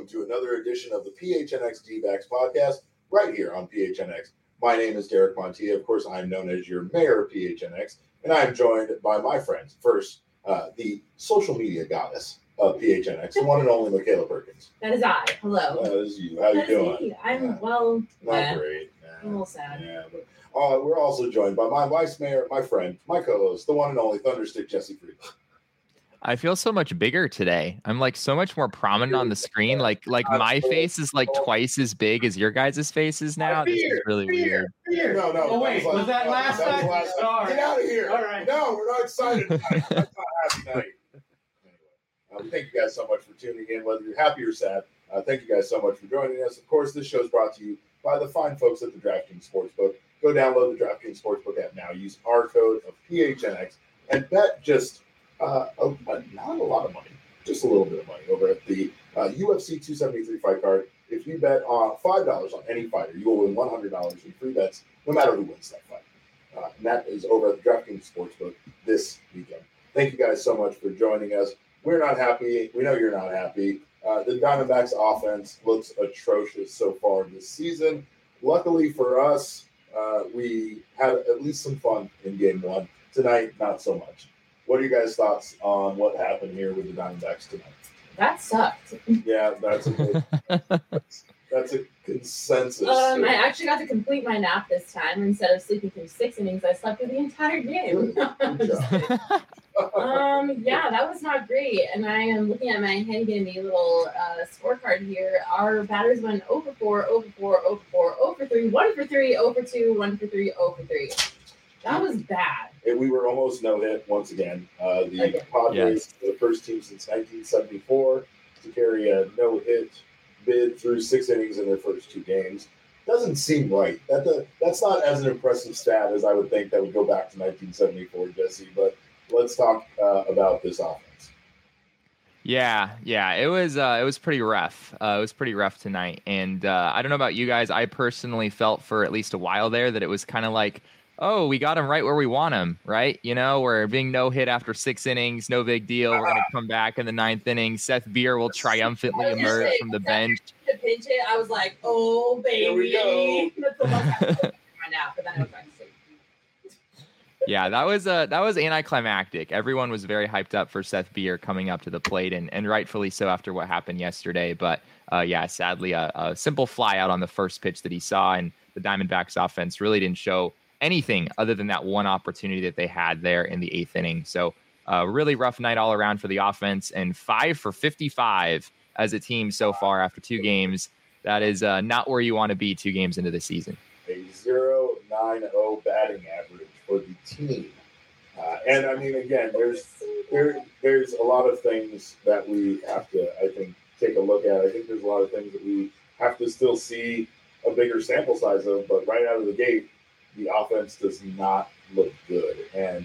to another edition of the PHNX D-backs podcast right here on PHNX. My name is Derek Montilla. Of course, I'm known as your mayor of PHNX, and I'm joined by my friends. First, the social media goddess of PHNX, the one and only Michaela Perkins. That is I. Hello. That is you. How you doing? Me. I'm well. Not great. I'm a little sad. Yeah, but we're also joined by my vice mayor, my friend, my co-host, the one and only Thunderstick Jesse Freed. I feel so much bigger today. I'm like so much more prominent on the screen. Like my face is like twice as big as your guys' faces now. This is really weird. No. Oh, wait. Was that last night? Get out of here. All right. No, we're not excited tonight. That's not a happy night. Anyway, thank you guys so much for tuning in, whether you're happy or sad. Thank you guys so much for joining us. Of course, this show is brought to you by the fine folks at the DraftKings Sportsbook. Go download the DraftKings Sportsbook app now. Use our code of PHNX and bet just not a lot of money, just a little bit of money over at the UFC 273 fight card. If you bet on $5 on any fighter, you will win $100 in free bets, no matter who wins that fight. And that is over at the DraftKings Sportsbook this weekend. Thank you guys so much for joining us. We're not happy. We know you're not happy. The Diamondbacks offense looks atrocious so far this season. Luckily for us, we had at least some fun in game one. Tonight, not so much. What are you guys' thoughts on what happened here with the Diamondbacks tonight? That sucked. Yeah, that's a consensus. I actually got to complete my nap this time. Instead of sleeping through 6 innings, I slept through the entire game. Good job. Yeah, that was not great. And I am looking at my handy little scorecard here. Our batters went 0 for 4, 0 for 4, 0 for 4, 0 for 3, 1 for 3, 0 for 2, 1 for 3, 0 for 3. That was bad. We were almost no-hit once again. The Padres, the first team since 1974 to carry a no-hit bid through 6 innings in their first 2 games. Doesn't seem right. That's not as an impressive stat as I would think that would go back to 1974, Jesse. But let's talk about this offense. Yeah, it was pretty rough. It was pretty rough tonight, and I don't know about you guys. I personally felt for at least a while there that it was kind of like, oh, we got him right where we want him, right? You know, we're being no hit after 6 innings, no big deal. We're going to come back in the 9th inning. Seth Beer will triumphantly emerge from the bench. The pinch hit, I was like, oh, baby. Here we go. That's the most I was now, but then I was back to sleep. Yeah, that was anticlimactic. Everyone was very hyped up for Seth Beer coming up to the plate, and rightfully so after what happened yesterday. But sadly, a simple fly out on the first pitch that he saw, and the Diamondbacks offense really didn't show anything other than that one opportunity that they had there in the 8th inning. So really rough night all around for the offense, and 5 for 55 as a team so far after 2 games. That is not where you want to be 2 games into the season. A 0.90 batting average for the team. And I mean, again, there's a lot of things that we have to, I think, take a look at. I think there's a lot of things that we have to still see a bigger sample size of, but right out of the gate, the offense does not look good. And,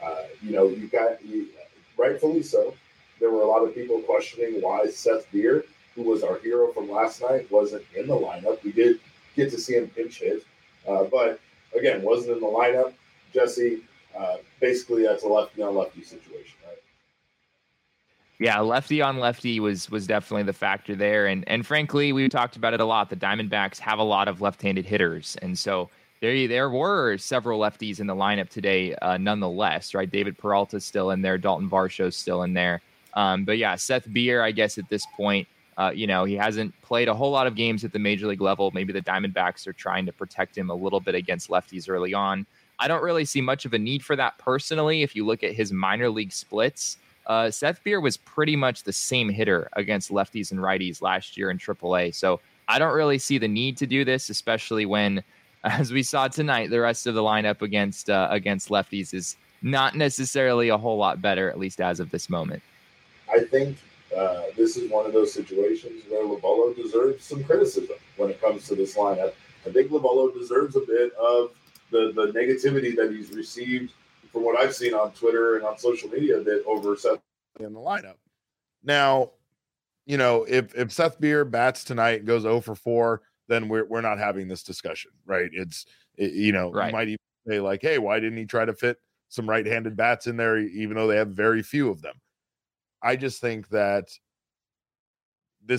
rightfully so, there were a lot of people questioning why Seth Beer, who was our hero from last night, wasn't in the lineup. We did get to see him pinch hit, but again, wasn't in the lineup. Jesse, basically that's a lefty on lefty situation, right? Yeah, lefty on lefty was definitely the factor there. And frankly, we talked about it a lot. The Diamondbacks have a lot of left-handed hitters. And so there were several lefties in the lineup today, nonetheless, right? David Peralta's still in there. Dalton Varsho's still in there. But yeah, Seth Beer, I guess at this point, he hasn't played a whole lot of games at the major league level. Maybe the Diamondbacks are trying to protect him a little bit against lefties early on. I don't really see much of a need for that personally. If you look at his minor league splits, Seth Beer was pretty much the same hitter against lefties and righties last year in AAA. So I don't really see the need to do this, especially when, as we saw tonight, the rest of the lineup against lefties is not necessarily a whole lot better, at least as of this moment. I think this is one of those situations where Lobolo deserves some criticism when it comes to this lineup. I think Lobolo deserves a bit of the negativity that he's received from what I've seen on Twitter and on social media a bit over Seth in the lineup. Now, if Seth Beer bats tonight and goes 0 for 4, then we're not having this discussion, right? Right. You might even say like, hey, why didn't he try to fit some right-handed bats in there, even though they have very few of them? I just think that this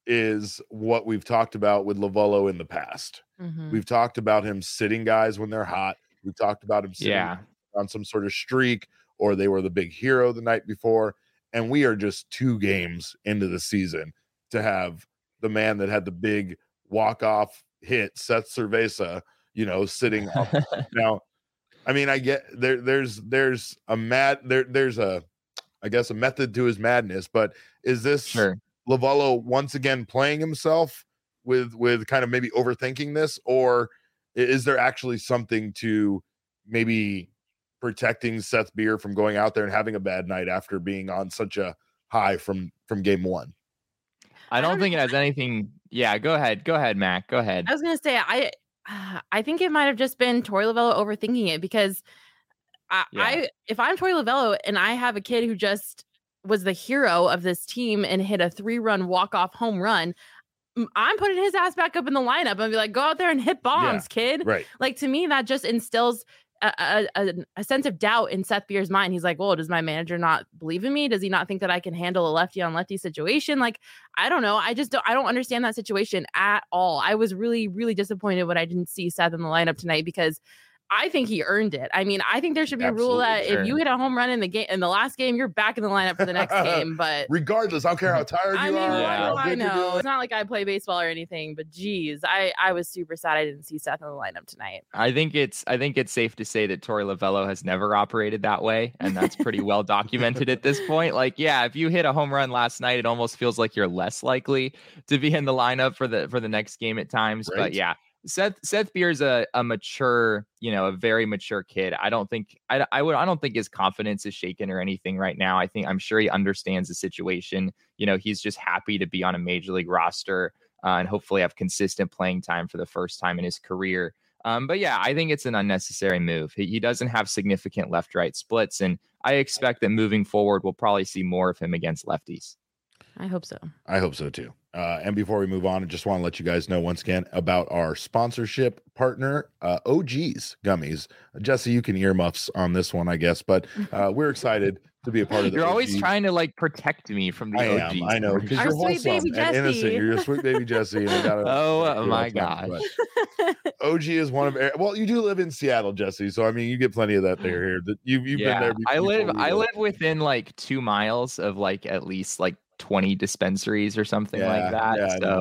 is what we've talked about with Lovullo in the past. We've talked about him sitting guys when they're hot. We've talked about him sitting on some sort of streak, or they were the big hero the night before. And we are just 2 games into the season to have the man that had the big walk-off hit, Seth Cerveza, sitting up. Now, I mean, I get there's a method to his madness, but is this Lovullo once again playing himself with kind of maybe overthinking this, or is there actually something to maybe protecting Seth Beer from going out there and having a bad night after being on such a high from game 1? I don't think it has anything. Yeah, go ahead, Mac. Go ahead. I was gonna say I think it might have just been Torey Lovullo overthinking it, because if I'm Torey Lovullo and I have a kid who just was the hero of this team and hit a 3-run walk-off home run, I'm putting his ass back up in the lineup and be like, go out there and hit bombs, kid. Right. Like, to me, that just instills a sense of doubt in Seth Beer's mind. He's like, well, does my manager not believe in me? Does he not think that I can handle a lefty on lefty situation? Like, I don't know. I don't understand that situation at all. I was really, really disappointed when I didn't see Seth in the lineup tonight, because I think he earned it. I mean, I think there should be a rule that if you hit a home run in the last game, you're back in the lineup for the next game. But regardless, I don't care how tired you are. I know. It's not like I play baseball or anything, but geez, I was super sad I didn't see Seth in the lineup tonight. I think it's safe to say that Torey Lovullo has never operated that way, and that's pretty well documented at this point. Like, yeah, if you hit a home run last night, it almost feels like you're less likely to be in the lineup for the next game at times. Right. But yeah. Seth Beer's a mature, a very mature kid. I don't think his confidence is shaken or anything right now. I'm sure he understands the situation. He's just happy to be on a major league roster and hopefully have consistent playing time for the first time in his career. But yeah, I think it's an unnecessary move. He doesn't have significant left-right splits, and I expect that moving forward, we'll probably see more of him against lefties. I hope so. I hope so too. And before we move on, I just want to let you guys know once again about our sponsorship partner, OG's Gummies. Jesse, you can earmuffs on this one, I guess, but we're excited to be a part of the You're OGs. always trying to protect me from the OGs. I know, because you're wholesome and innocent. You're a sweet baby Jesse. And oh my gosh. OG is one of, well, you do live in Seattle, Jesse, so I mean, you get plenty of that there here. You've been there before. I live within like 2 miles of like at least like 20 dispensaries or something like that.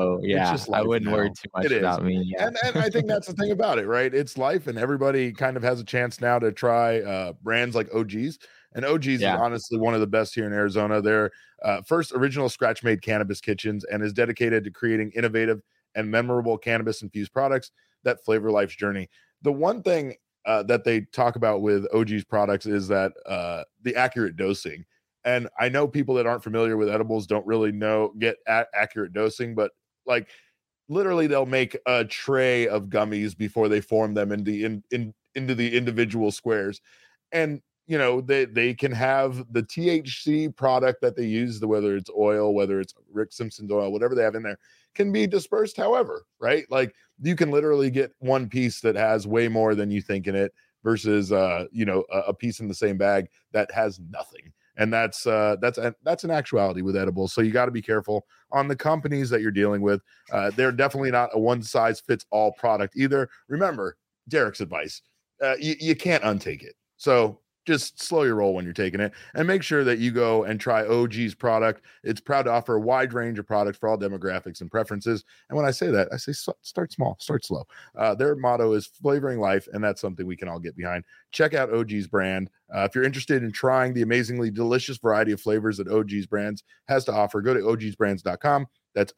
I wouldn't worry too much about me. Yeah. And I think that's the thing about it, right? It's life, and everybody kind of has a chance now to try brands like OG's. And OG's is honestly one of the best here in Arizona. They're first original scratch-made cannabis kitchens and is dedicated to creating innovative and memorable cannabis-infused products that flavor life's journey. The one thing that they talk about with OG's products is that the accurate dosing. And I know people that aren't familiar with edibles don't really get accurate dosing, but like literally they'll make a tray of gummies before they form them into the individual squares. And, they can have the THC product that they use, whether it's oil, whether it's Rick Simpson's oil, whatever they have in there, can be dispersed however, right? Like you can literally get one piece that has way more than you think in it versus, a piece in the same bag that has nothing. And that's an actuality with edibles. So you got to be careful on the companies that you're dealing with. They're definitely not a one size fits all product either. Remember Derek's advice. You can't untake it. So just slow your roll when you're taking it, and make sure that you go and try OG's product. It's proud to offer a wide range of products for all demographics and preferences. And when I say that, I say start small, start slow. Their motto is flavoring life, and that's something we can all get behind. Check out OG's brand. If you're interested in trying the amazingly delicious variety of flavors that OG's brands has to offer, go to ogsbrands.com. That's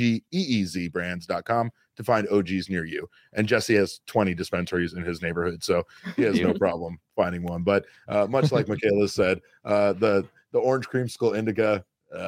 OGEEZ brands.com to find OGs near you. And Jesse has 20 dispensaries in his neighborhood, so he has no problem finding one. But much like Michaela said, the orange creamsicle indica,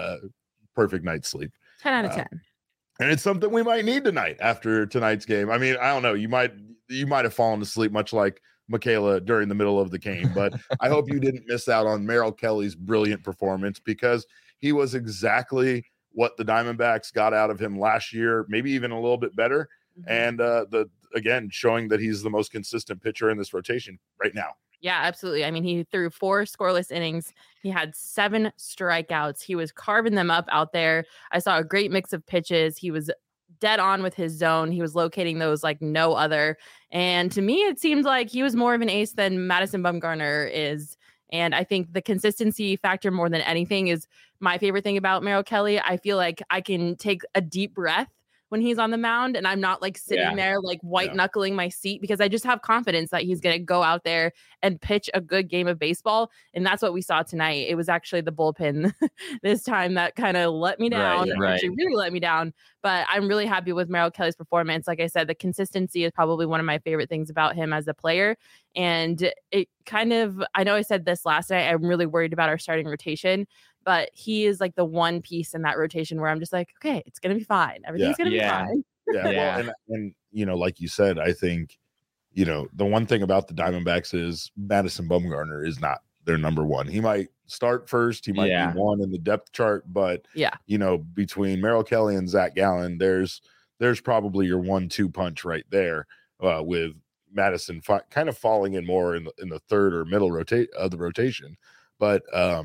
perfect night's sleep. 10 out of 10. And it's something we might need tonight after tonight's game. I mean, I don't know. You might have fallen asleep much like Michaela during the middle of the game, but I hope you didn't miss out on Merrill Kelly's brilliant performance, because he was exactly what the Diamondbacks got out of him last year, maybe even a little bit better. And again, showing that he's the most consistent pitcher in this rotation right now. Yeah, absolutely. I mean, he threw 4 scoreless innings. He had 7 strikeouts. He was carving them up out there. I saw a great mix of pitches. He was dead on with his zone. He was locating those like no other. And to me, it seemed like he was more of an ace than Madison Bumgarner is. And I think the consistency factor more than anything is my favorite thing about Merrill Kelly. I feel like I can take a deep breath when he's on the mound and I'm not like sitting there like white knuckling my seat, because I just have confidence that he's going to go out there and pitch a good game of baseball. And that's what we saw tonight. It was actually the bullpen this time that kind of let me down. Actually really let me down. But I'm really happy with Merrill Kelly's performance. Like I said, the consistency is probably one of my favorite things about him as a player. And it kind of, I know I said this last night, I'm really worried about our starting rotation, but he is like the one piece in that rotation where I'm just like, okay, it's going to be fine. Everything's going to be fine. Well, and you know, like you said, I think, you know, the one thing about the Diamondbacks is Madison Bumgarner is not their number one. He might start first. He might be one in the depth chart, but you know, between Merrill Kelly and Zach Gallen, there's probably your 1-2 punch right there, with Madison kind of falling in more in the third or middle of the rotation. But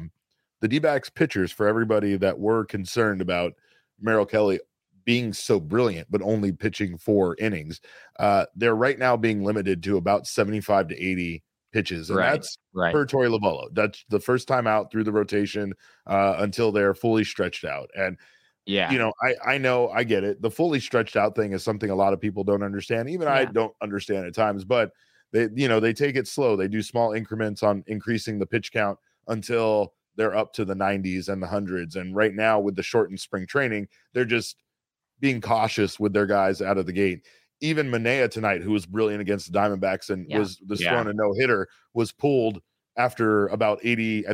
the D-backs pitchers, for everybody that were concerned about Merrill Kelly being so brilliant, but only pitching 4 innings, they're right now being limited to about 75 to 80 pitches. And that's per Torey Lovullo. That's the first time out through the rotation until they're fully stretched out. And, you know, I know, I get it. The fully stretched out thing is something a lot of people don't understand. Even I don't understand at times, but they take it slow. They do small increments on increasing the pitch count until they're up to the 90s and the 100s. And right now with the shortened spring training, they're just being cautious with their guys out of the gate. Even Manaea tonight, who was brilliant against the Diamondbacks and was thrown a no-hitter, was pulled after about 88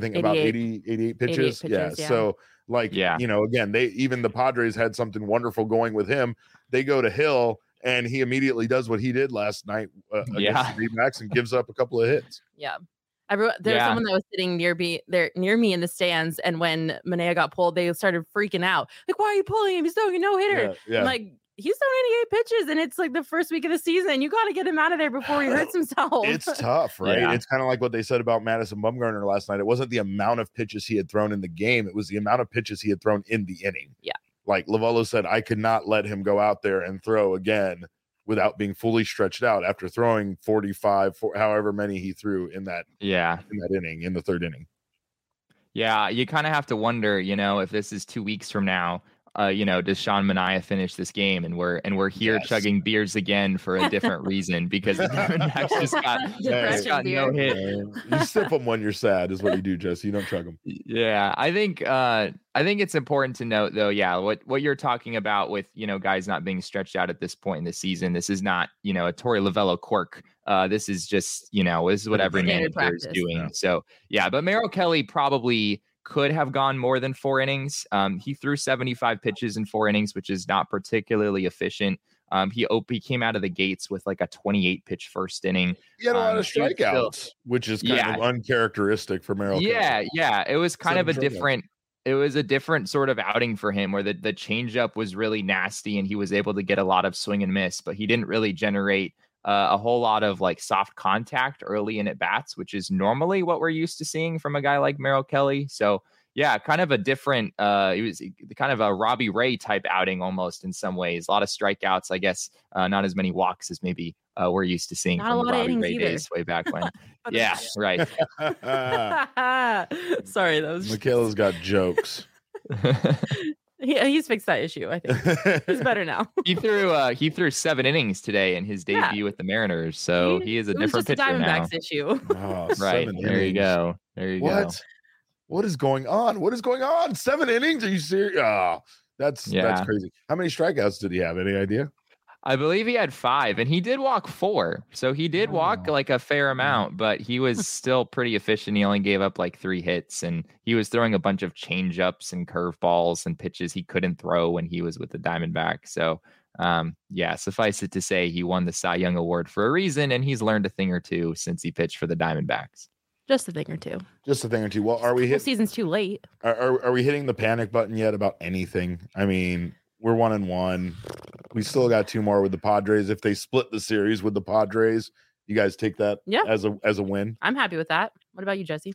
pitches. So like, you know, again, even the Padres had something wonderful going with him. They go to Hill and he immediately does what he did last night against the D-backs and gives up a couple of hits. There's someone that was sitting near me in the stands, and when Manaea got pulled, they started freaking out. Like, why are you pulling him? He's throwing no hitter. I'm like, he's throwing 88 pitches, and it's like the first week of the season. You got to get him out of there before he hurts himself. It's tough, right? It's kind of like what they said about Madison Bumgarner last night. It wasn't the amount of pitches he had thrown in the game; it was the amount of pitches he had thrown in the inning. Like Lovullo said, I could not let him go out there and throw again without being fully stretched out after throwing 45, however many he threw in that inning, in the third inning. Yeah, you kind of have to wonder, you know, if this is 2 weeks from now, you know, does Sean Manaea finish this game? And we're here chugging beers again for a different reason, because the Diamondbacks just got no hit. You sip them when you're sad is what you do, Jesse. You don't chug them. Yeah, I think it's important to note, though, what you're talking about with, you know, guys not being stretched out at this point in the season. This is not, you know, a Torey Lovullo quirk. This is just, you know, this is what every manager is doing. Yeah. So, but Merrill Kelly probably could have gone more than 4 innings. He threw 75 pitches in 4 innings, which is not particularly efficient. He came out of the gates with like a 28 pitch first inning. He had a lot of strikeouts, which is kind of uncharacteristic for Merrill Kelly. It was kind of a different. It was a different sort of outing for him, where the changeup was really nasty and he was able to get a lot of swing and miss, but he didn't really generate a whole lot of like soft contact early in at bats, which is normally what we're used to seeing from a guy like Merrill Kelly. So kind of a different, it was kind of a Robbie Ray type outing almost in some ways. A lot of strikeouts, I guess, not as many walks as maybe we're used to seeing from the Robbie Ray days way back when. Right. Sorry, that was Michaela's got jokes. He's fixed that issue. I think he's better now. He threw 7 innings today in his debut with the Mariners, so he is a different pitcher now. Diamondbacks issue. Oh, right there you go. What is going on? 7 innings? Are you serious? Oh, that's crazy. How many strikeouts did he have? Any idea? I believe he had 5, and he did walk 4. So he did walk like a fair amount, but he was still pretty efficient. He only gave up like 3 hits, and he was throwing a bunch of changeups and curveballs and pitches he couldn't throw when he was with the Diamondbacks. So, suffice it to say, he won the Cy Young Award for a reason, and he's learned a thing or two since he pitched for the Diamondbacks. Just a thing or two. Well, are we hitting? Season's too late. Are we hitting the panic button yet about anything? I mean, we're 1-1. We still got 2 more with the Padres. If they split the series with the Padres You guys take that as a win? I'm happy with that. What about you, Jesse?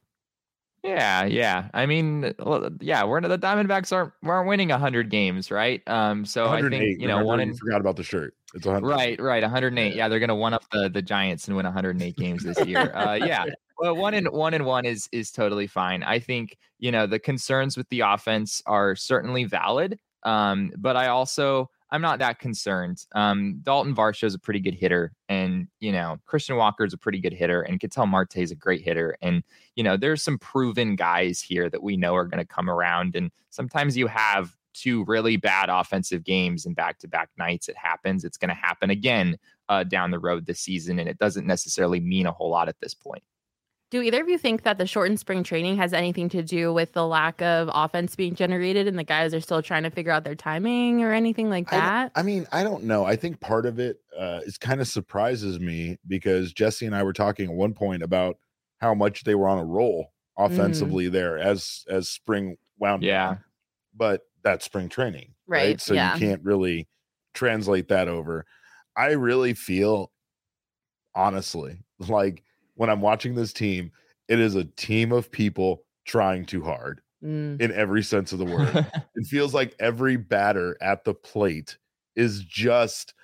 Yeah. I mean, the Diamondbacks aren't winning 100 games, right? So I think you forgot about the shirt. It's 100. Right, 108. Yeah, they're gonna one up the Giants and win 108 games this year. Well, 1-1 is totally fine. I think the concerns with the offense are certainly valid. But I'm not that concerned. Dalton Varsho is a pretty good hitter, and Christian Walker is a pretty good hitter, and Ketel Marte is a great hitter. And there's some proven guys here that we know are going to come around. And sometimes you have two really bad offensive games in back-to-back nights. It happens. It's going to happen again down the road this season, and it doesn't necessarily mean a whole lot at this point. Do either of you think that the shortened spring training has anything to do with the lack of offense being generated and the guys are still trying to figure out their timing or anything like that? I don't know. I think part of it is kind of surprises me because Jesse and I were talking at one point about how much they were on a roll offensively there as spring wound down. But that's spring training, right? So you can't really translate that over. I really feel, honestly, like when I'm watching this team, it is a team of people trying too hard in every sense of the word. It feels like every batter at the plate is just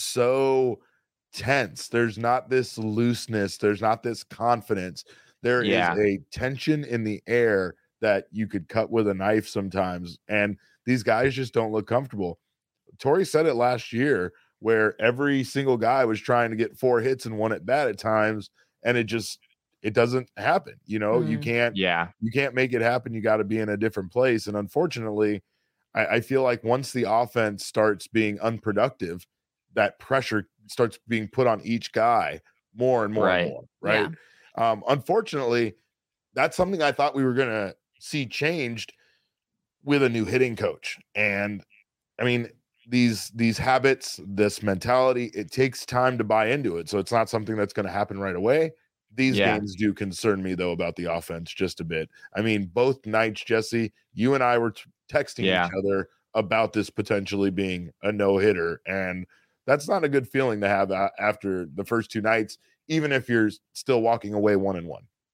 so tense. There's not this looseness. There's not this confidence. There is a tension in the air that you could cut with a knife sometimes. And these guys just don't look comfortable. Torey said it last year where every single guy was trying to get 4 hits in one at bat at times. And it doesn't happen. You can't make it happen. You got to be in a different place. And unfortunately, I feel like once the offense starts being unproductive, that pressure starts being put on each guy more and more and more. Right. Yeah. Unfortunately, that's something I thought we were going to see changed with a new hitting coach. And I mean, these habits, this mentality, it takes time to buy into it. So it's not something that's going to happen right away. These games do concern me, though, about the offense just a bit. I mean, both nights, Jesse, you and I were texting each other about this potentially being a no-hitter. And that's not a good feeling to have after the first 2 nights, even if you're still walking away 1-1.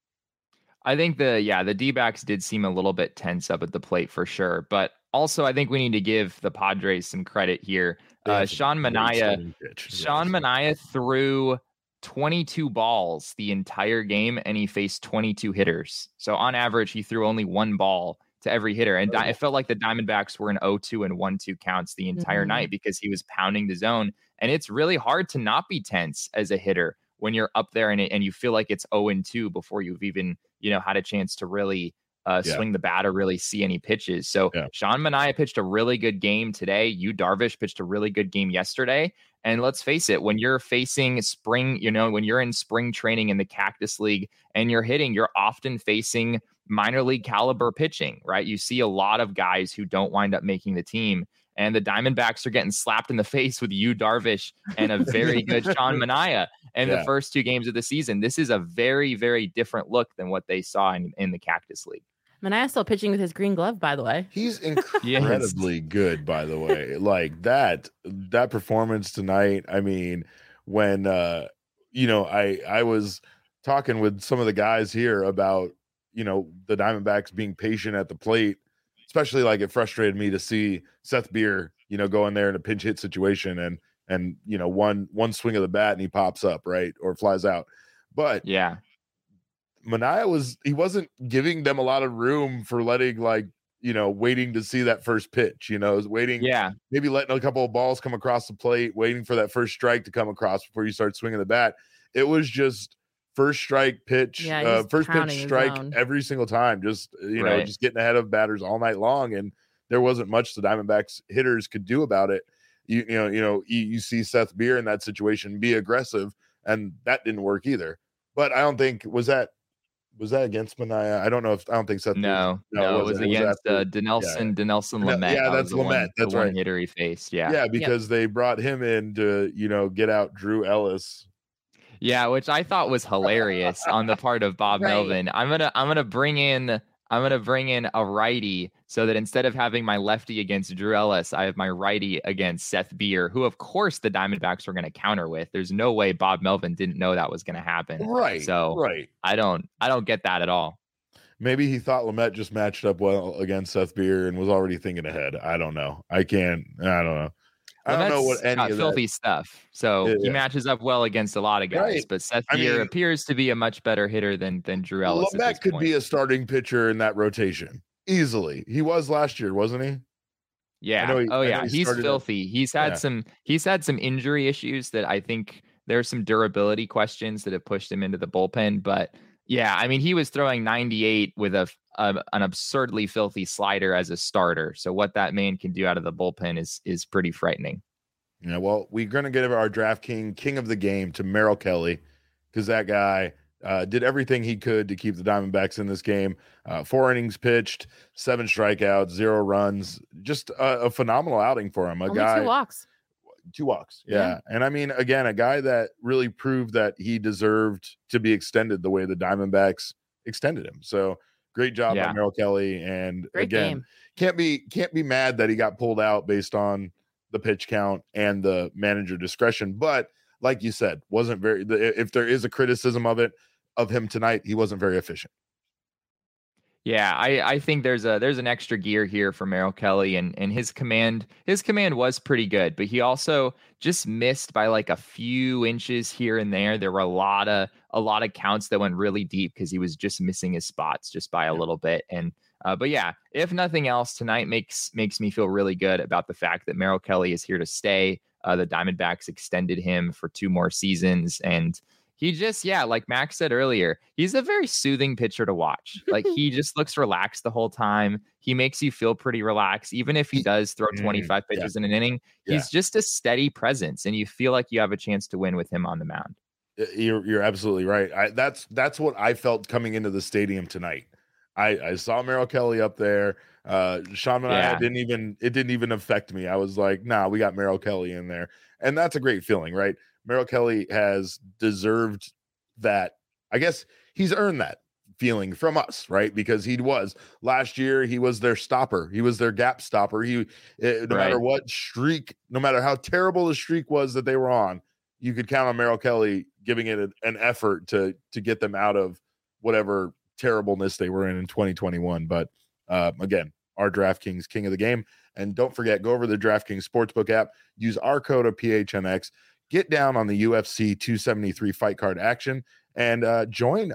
I think the D-backs did seem a little bit tense up at the plate for sure. But also, I think we need to give the Padres some credit here. Sean Manaea threw 22 balls the entire game, and he faced 22 hitters. So on average, he threw only 1 ball to every hitter. And it felt like the Diamondbacks were in 0-2 and 1-2 counts the entire night because he was pounding the zone. And it's really hard to not be tense as a hitter when you're up there and you feel like it's 0-2 before you've even had a chance to really swing the bat or really see any pitches. So Sean Manaea pitched a really good game today. Yu Darvish pitched a really good game yesterday. And let's face it, when you're facing spring, when you're in spring training in the Cactus League and you're hitting, you're often facing minor league caliber pitching, right? You see a lot of guys who don't wind up making the team. And the Diamondbacks are getting slapped in the face with Yu Darvish and a very good Sean Manaea in the first 2 games of the season. This is a very, very different look than what they saw in the Cactus League. Manaea's still pitching with his green glove, by the way. He's incredibly good, by the way. Like that performance tonight. I mean, when I was talking with some of the guys here about the Diamondbacks being patient at the plate, especially like it frustrated me to see Seth Beer, go in there in a pinch hit situation and one swing of the bat and he pops up, right, or flies out. But Manaea wasn't giving them a lot of room for letting waiting to see that first pitch, waiting, maybe letting a couple of balls come across the plate, waiting for that first strike to come across before you start swinging the bat. It was just first strike pitch, first pitch strike every single time, just just getting ahead of batters all night long. And there wasn't much the Diamondbacks hitters could do about it. You see Seth Beer in that situation be aggressive, and that didn't work either. But I don't think was that against Manaea? I don't think Seth. No, it was against Dinelson Lamet. Yeah, that's Lamet. That's right. Hitter he faced. Because they brought him in to get out Drew Ellis. Yeah, which I thought was hilarious on the part of Bob Melvin. I'm gonna bring in I'm gonna bring in a righty so that instead of having my lefty against Drew Ellis, I have my righty against Seth Beer, who of course the Diamondbacks were gonna counter with. There's no way Bob Melvin didn't know that was gonna happen. Right. So right. I don't get that at all. Maybe he thought Lamet just matched up well against Seth Beer and was already thinking ahead. I don't know. I don't know. I don't know what any of filthy that. Stuff. So he matches up well against a lot of guys, Right. but Seth Beer appears to be a much better hitter than Drew Ellis. Lamet could be a starting pitcher in that rotation easily. He was last year, wasn't he? Yeah. He's filthy. He's had some injury issues that I think there's some durability questions that have pushed him into the bullpen, but yeah, I mean, he was throwing 98 with an absurdly filthy slider as a starter. So what that man can do out of the bullpen is pretty frightening. Yeah, well, we're going to give our DraftKings king of the game to Merrill Kelly, because that guy did everything he could to keep the Diamondbacks in this game. 4 innings pitched, 7 strikeouts, 0 runs. Just a phenomenal outing for him. Only 2 walks. 2 walks. Yeah. And I mean, again, a guy that really proved that he deserved to be extended the way the Diamondbacks extended him. So great job by Merrill Kelly. And great again, game. Can't be mad that he got pulled out based on the pitch count and the manager discretion. But like you said, wasn't very, if there is a criticism of him tonight, he wasn't very efficient. Yeah, I think there's an extra gear here for Merrill Kelly, and his command was pretty good, but he also just missed by like a few inches here and there. There were a lot of counts that went really deep because he was just missing his spots just by a little bit. And but yeah, if nothing else, tonight makes me feel really good about the fact that Merrill Kelly is here to stay. The Diamondbacks extended him for 2 more seasons, and he just, like Max said earlier, he's a very soothing pitcher to watch. Like, he just looks relaxed the whole time. He makes you feel pretty relaxed. Even if he does throw 25 pitches in an inning, he's just a steady presence, and you feel like you have a chance to win with him on the mound. You're absolutely right. That's what I felt coming into the stadium tonight. I saw Merrill Kelly up there. Sean and I it didn't even affect me. I was like, nah, we got Merrill Kelly in there. And that's a great feeling, right? Merrill Kelly has deserved that. I guess he's earned that feeling from us, right? Because he was last year, he was their stopper. He was their gap stopper. Matter what streak, no matter how terrible the streak was that they were on, you could count on Merrill Kelly giving it an effort to get them out of whatever terribleness they were in 2021. But again, our DraftKings king of the game. And don't forget, go over the DraftKings Sportsbook app, use our code of PHNX, get down on the UFC 273 fight card action, and join.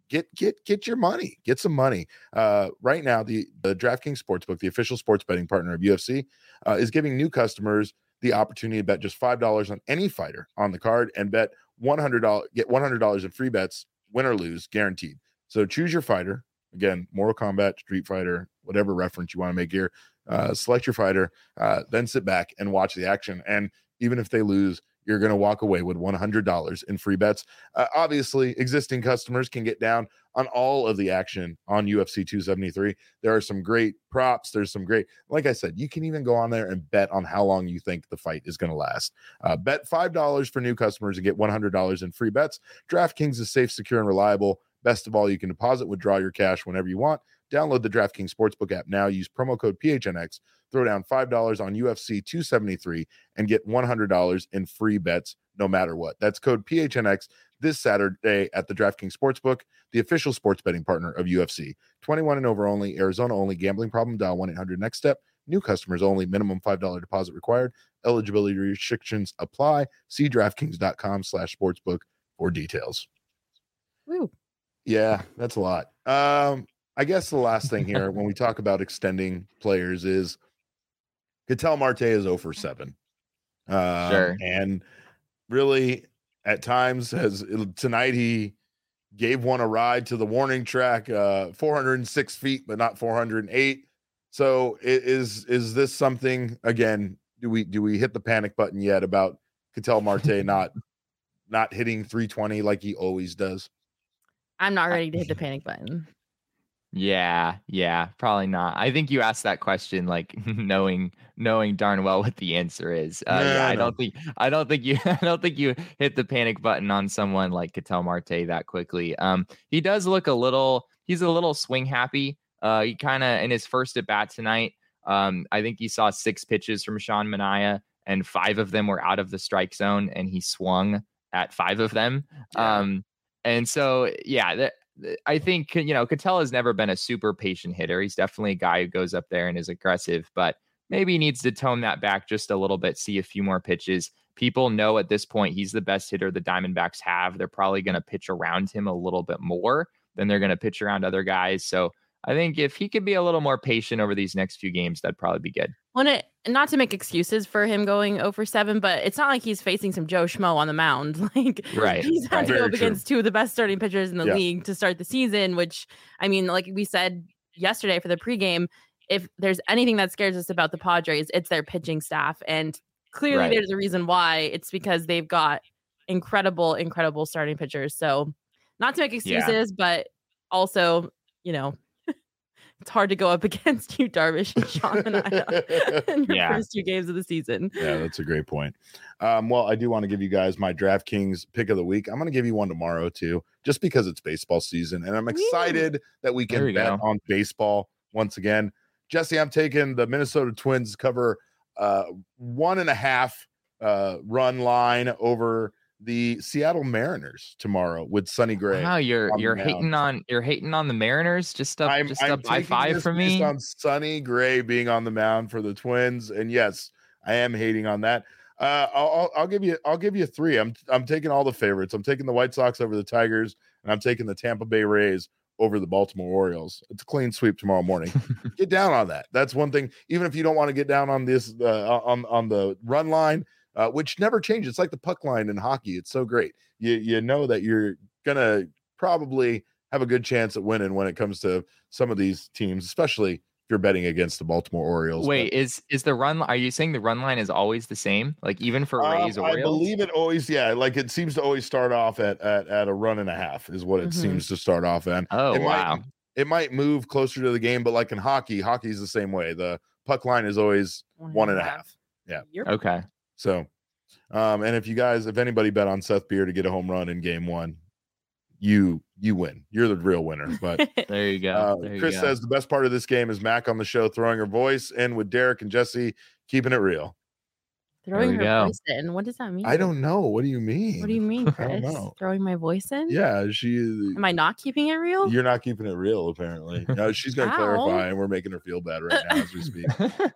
Get your money. Get some money. Right now, the DraftKings Sportsbook, the official sports betting partner of UFC, is giving new customers the opportunity to bet just $5 on any fighter on the card and bet $100. Get $100 in free bets, win or lose, guaranteed. So choose your fighter. Again, Mortal Kombat, Street Fighter, whatever reference you want to make here. Select your fighter, then sit back and watch the action. And even if they lose, you're going to walk away with $100 in free bets. Obviously, existing customers can get down on all of the action on UFC 273. There are some great props. There's some great, like I said, you can even go on there and bet on how long you think the fight is going to last. Bet $5 for new customers and get $100 in free bets. DraftKings is safe, secure, and reliable. Best of all, you can deposit, withdraw your cash whenever you want. Download the DraftKings Sportsbook app now. Use promo code PHNX. Throw down $5 on UFC 273 and get $100 in free bets no matter what. That's code PHNX this Saturday at the DraftKings Sportsbook, the official sports betting partner of UFC. 21 and over only, Arizona only. Gambling problem? Dial 1-800-NEXT-STEP. New customers only. Minimum $5 deposit required. Eligibility restrictions apply. See DraftKings.com/sportsbook for details. Woo. Yeah, that's a lot. I guess the last thing here when we talk about extending players is Ketel Marte is 0 for 7. Sure. And really, at times, tonight he gave one a ride to the warning track, 406 feet, but not 408. So is this something, again, do we hit the panic button yet about Ketel Marte not hitting 320 like he always does? I'm not ready to hit the panic button. Yeah, probably not. I think you asked that question like knowing darn well what the answer is. I don't think you hit the panic button on someone like Ketel Marte that quickly. He does look he's a little swing happy. He kind of in his first at bat tonight, I think he saw 6 pitches from Sean Manaea, and 5 of them were out of the strike zone, and he swung at 5 of them. Yeah. And so, I think, Ketel has never been a super patient hitter. He's definitely a guy who goes up there and is aggressive, but maybe he needs to tone that back just a little bit, see a few more pitches. People know at this point he's the best hitter the Diamondbacks have. They're probably going to pitch around him a little bit more than they're going to pitch around other guys. So I think if he could be a little more patient over these next few games, that'd probably be good. Well, not to make excuses for him going 0-for-7, but it's not like he's facing some Joe Schmo on the mound. Like, right. He's had to go up against 2 of the best starting pitchers in the Yeah. league to start the season, which, I mean, like we said yesterday for the pregame, if there's anything that scares us about the Padres, it's their pitching staff. And clearly there's a reason why. It's because they've got incredible starting pitchers. So not to make excuses, but also, it's hard to go up against you, Darvish and Sean Manaea in your first 2 games of the season. Yeah, that's a great point. Well, I do want to give you guys my DraftKings pick of the week. I'm going to give you one tomorrow too, just because it's baseball season, and I'm excited that we can bet on baseball once again. Jesse, I'm taking the Minnesota Twins to cover 1.5 run line over the Seattle Mariners tomorrow with Sonny Gray. Wow, you're hating on the Mariners just up by 5 for me on Sonny Gray being on the mound for the Twins, and yes, I am hating on that. I'll give you 3. I'm taking all the favorites. I'm taking the White Sox over the Tigers, and I'm taking the Tampa Bay Rays over the Baltimore Orioles. It's a clean sweep tomorrow morning. Get down on that. That's one thing. Even if you don't want to get down on this on the run line, which never changes. It's like the puck line in hockey. It's so great. You know that you're gonna probably have a good chance at winning when it comes to some of these teams, especially if you're betting against the Baltimore Orioles. Wait, is the run? Are you saying the run line is always the same? Like even for Rays Orioles? I believe it always. Yeah, like it seems to always start off at a run and a half is what it seems to start off at. Oh, wow. It might move closer to the game, but like in hockey's the same way. The puck line is always 1.5. Yeah. Okay. So, and if anybody bet on Seth Beer to get a home run in game 1, you win. You're the real winner. But there you go. Chris says the best part of this game is Mac on the show throwing her voice in with Derek and Jesse, keeping it real. Throwing her voice in. What does that mean? I don't know. What do you mean? What do you mean, Chris? Throwing my voice in? Yeah, Am I not keeping it real? You're not keeping it real, apparently. No, she's going to clarify, and we're making her feel bad right now as we speak.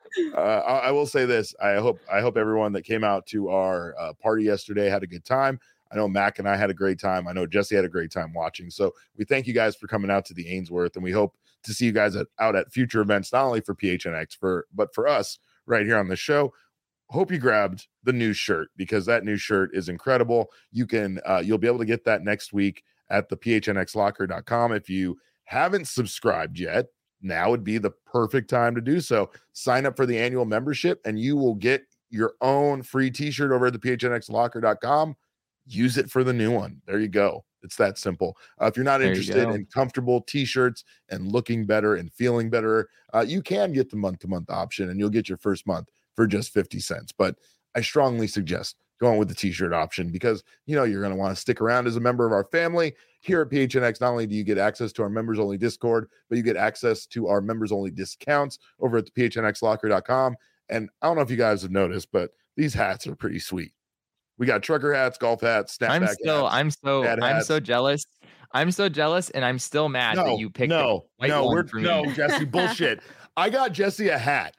I will say this: I hope everyone that came out to our party yesterday had a good time. I know Mac and I had a great time. I know Jesse had a great time watching. So we thank you guys for coming out to the Ainsworth, and we hope to see you guys out at future events, not only for PHNX, but for us right here on the show. Hope you grabbed the new shirt, because that new shirt is incredible. You'll be able to get that next week at the phnxlocker.com. If you haven't subscribed yet, now would be the perfect time to do so. Sign up for the annual membership and you will get your own free t-shirt over at the phnxlocker.com. Use it for the new one. There you go. It's that simple. If you're not interested in comfortable t-shirts and looking better and feeling better, you can get the month-to-month option, and you'll get your first month for just 50 cents. But I strongly suggest going with the t-shirt option, because you're going to want to stick around as a member of our family here at PHNX. Not only do you get access to our members only Discord, but you get access to our members only discounts over at the phnxlocker.com. And I don't know if you guys have noticed, but these hats are pretty sweet. We got trucker hats, golf hats, snapback hats. I'm so jealous. I'm so jealous, and I'm still mad that you picked Jesse, bullshit. I got Jesse a hat.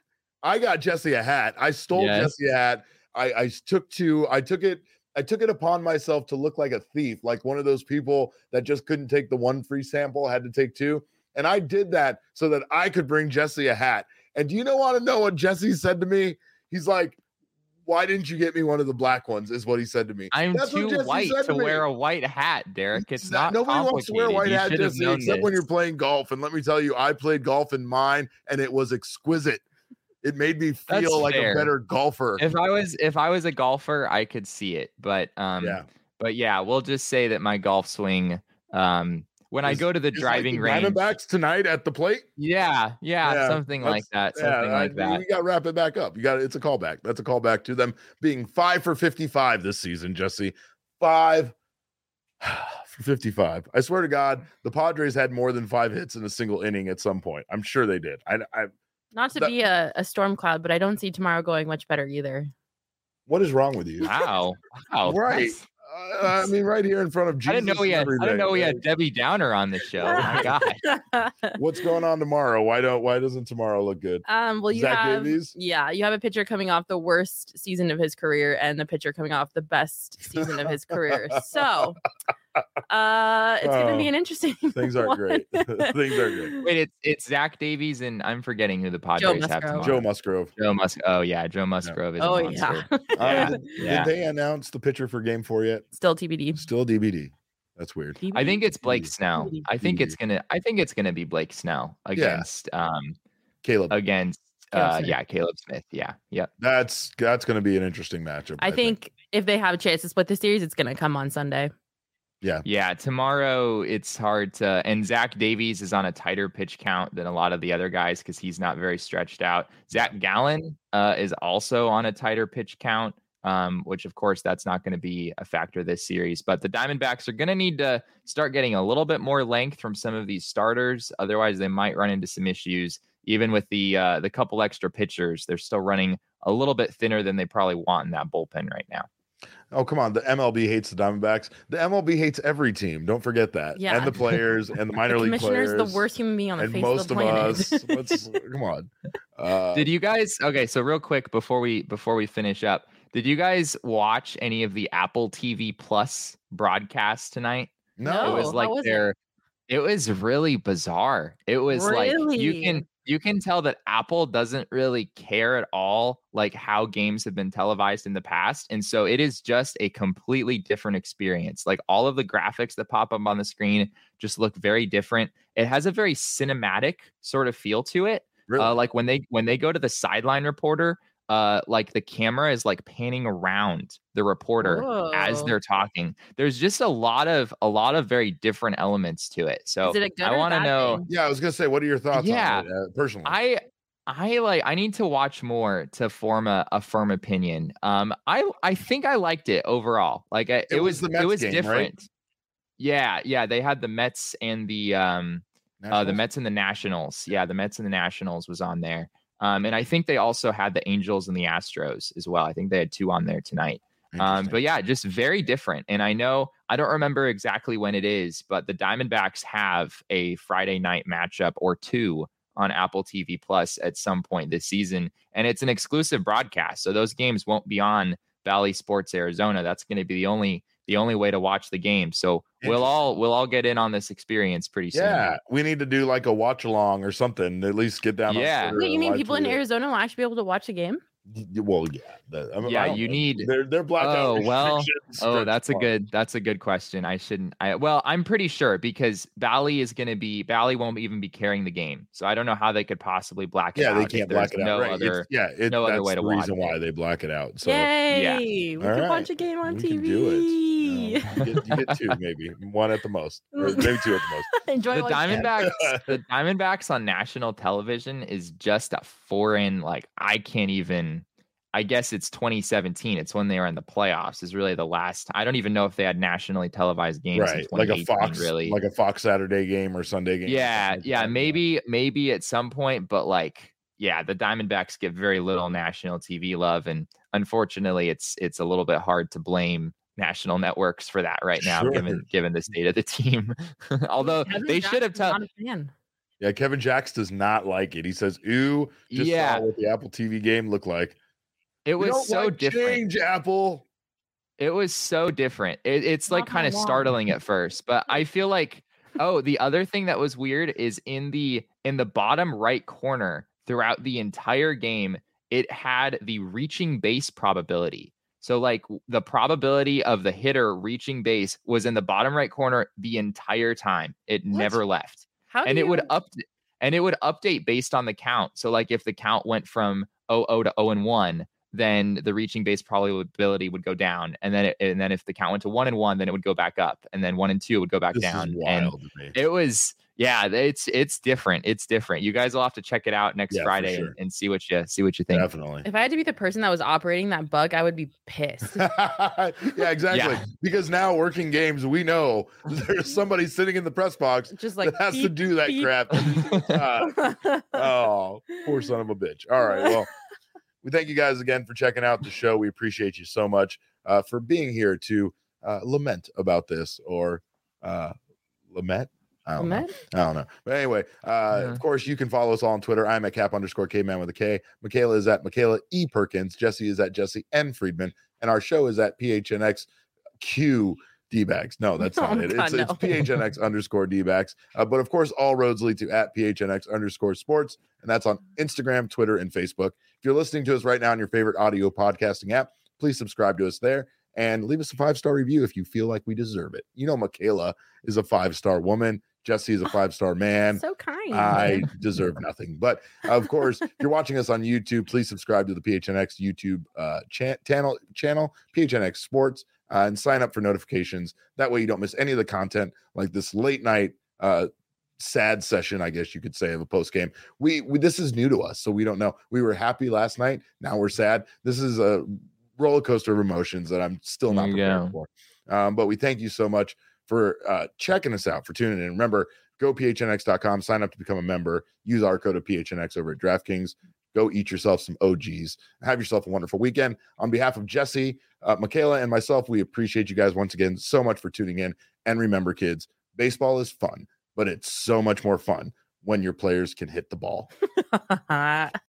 I stole Jesse a hat. I took it upon myself to look like a thief, like one of those people that just couldn't take the one free sample, had to take 2. And I did that so that I could bring Jesse a hat. And do you want to know what Jesse said to me? He's like, "Why didn't you get me one of the black ones?" Is what he said to me. I'm too white to wear a white hat, Derek. It's not nobody wants to wear a white hat, Jesse, except when you're playing golf. And let me tell you, I played golf in mine, and it was exquisite. It made me feel like a better golfer. If I was a golfer, I could see it. But we'll just say that my golf swing, when I go to the driving range, Diamondbacks tonight at the plate. Yeah, something like that. You got to wrap it back up. It's a callback. That's a callback to them being 5 for 55 this season, Jesse. 5 for for 55. I swear to God, the Padres had more than 5 hits in a single inning at some point. I'm sure they did. Not to be a storm cloud, but I don't see tomorrow going much better either. What is wrong with you? Wow. Right. I mean, right here in front of Jesus. I didn't know we had Debbie Downer on the show. Oh my God. What's going on tomorrow? Why doesn't tomorrow look good? Well, you Zach have Davies? you have a pitcher coming off the worst season of his career and the pitcher coming off the best season of his career. So it's going to be an interesting things aren't great. Things are great. Wait, it's Zach Davies and I'm forgetting who the Padres have tomorrow. Joe Musgrove. Oh yeah, Joe Musgrove is. Oh a monster. Did they announce the pitcher for Game 4 yet? Still TBD. Still DBD. That's weird. TBD? I think it's Blake Snell. I think it's gonna be Blake Snell against Caleb. Against Caleb Smith. Yeah. Yep. That's gonna be an interesting matchup. I think if they have a chance to split the series, it's gonna come on Sunday. Yeah. Tomorrow it's hard to, and Zach Davies is on a tighter pitch count than a lot of the other guys because he's not very stretched out. Zach Gallen is also on a tighter pitch count, which of course that's not going to be a factor this series. But the Diamondbacks are going to need to start getting a little bit more length from some of these starters. Otherwise, they might run into some issues. Even with the couple extra pitchers, they're still running a little bit thinner than they probably want in that bullpen right now. Oh, come on. The MLB hates the Diamondbacks. The MLB hates every team. Don't forget that. Yeah. And the players and the minor league players. The commissioner's the worst human being on the and face most of the planet. us. Come on. Did you guys? Okay, so real quick before we finish up, did you guys watch any of the Apple TV Plus broadcasts tonight? No. It was like it was really bizarre. It was like you can tell that Apple doesn't really care at all like how games have been televised in the past. And so it is just a completely different experience. Like all of the graphics that pop up on the screen just look very different. It has a very cinematic sort of feel to it. Really? Like when they go to the sideline reporter, like the camera is like panning around the reporter as they're talking. There's just a lot of very different elements to it. So I want to know. Thing? Yeah, I was gonna say, what are your thoughts on it personally? I need to watch more to form a firm opinion. I think I liked it overall. Like it was game, different. Right? Yeah. They had the Mets and the Mets and the Nationals. Yeah, the Mets and the Nationals was on there. And I think they also had the Angels and the Astros as well. I think they had 2 on there tonight. But yeah, just very different. And I don't remember exactly when it is, but the Diamondbacks have a Friday night matchup or 2 on Apple TV Plus at some point this season. And it's an exclusive broadcast. So those games won't be on Bally Sports Arizona. That's going to be the only way to watch the game. So we'll all get in on this experience pretty soon. Yeah, we need to do like a watch along or something. At least get down. Yeah. Wait, you mean people in Arizona will actually be able to watch the game? Well, yeah. You need. They're blackout. That's a good question. I'm pretty sure because Bally won't even be carrying the game, so I don't know how they could possibly black it out. Yeah, they can't black it out. No other way to watch it. Reason why they black it out. So yay, we can watch a game on TV. Can do it. You get 2, maybe 1 at the most, or maybe 2 at the most. Enjoy the Diamondbacks. The Diamondbacks on national television is just a foreign. Like I can't even. I guess it's 2017. It's when they were in the playoffs. Is really the last. I don't even know if they had nationally televised games. Right, like a Fox, really, like a Fox Saturday game or Sunday game. Yeah, maybe at some point, but like, yeah, the Diamondbacks get very little national TV love, and unfortunately, it's a little bit hard to blame national networks for that right now, given the state of the team. Although they should have told. Yeah, Kevin Jacks does not like it. He says, "Ooh, just saw what the Apple TV game looked like." It was so different. Change, Apple. It was so different. It's like kind of startling at first, but I feel like the other thing that was weird is in the bottom right corner throughout the entire game, it had the reaching base probability. So like the probability of the hitter reaching base was in the bottom right corner the entire time. It never left. It would update based on the count. So like if the count went from 0-0 to 0-1, then the reaching base probability would go down. And then if the count went to 1-1, then it would go back up. And then 1-2 would go back down. Is wild to me. It was, yeah, it's different. It's different. You guys will have to check it out next Friday and see what you think. Definitely. If I had to be the person that was operating that bug, I would be pissed. Yeah, exactly. Yeah. Because now working games, we know there's somebody sitting in the press box just like that has to do that crap. Oh, poor son of a bitch. All right. Well, we thank you guys again for checking out the show. We appreciate you so much for being here to lament about this or lament. I don't know. But anyway, of course, you can follow us all on Twitter. I'm at @Cap_Kman with a K. Michaela is at Michaela E. Perkins. Jesse is at Jesse N. Friedman. And our show is at PHNXQ D-Bags. No, that's not it. It's PHNX_D-Bags. But of course, all roads lead to @PHNX_sports. And that's on Instagram, Twitter, and Facebook. If you're listening to us right now on your favorite audio podcasting app, please subscribe to us there and leave us a 5-star review if you feel like we deserve it. You know, Michaela is a 5-star woman. Jesse is a 5-star man. So kind. I deserve nothing. But of course, if you're watching us on YouTube, please subscribe to the PHNX YouTube channel, PHNX Sports, and sign up for notifications. That way you don't miss any of the content like this late night sad session, I guess you could say, of a post game. We this is new to us, so we don't know. We were happy last night. Now we're sad. This is a roller coaster of emotions that I'm still not prepared for. But we thank you so much for checking us out, for tuning in. Remember, go phnx.com, sign up to become a member, use our code of PHNX over at DraftKings. Go eat yourself some OGs. Have yourself a wonderful weekend. On behalf of Jesse, Michaela, and myself, we appreciate you guys once again so much for tuning in. And remember, kids, baseball is fun, but it's so much more fun when your players can hit the ball.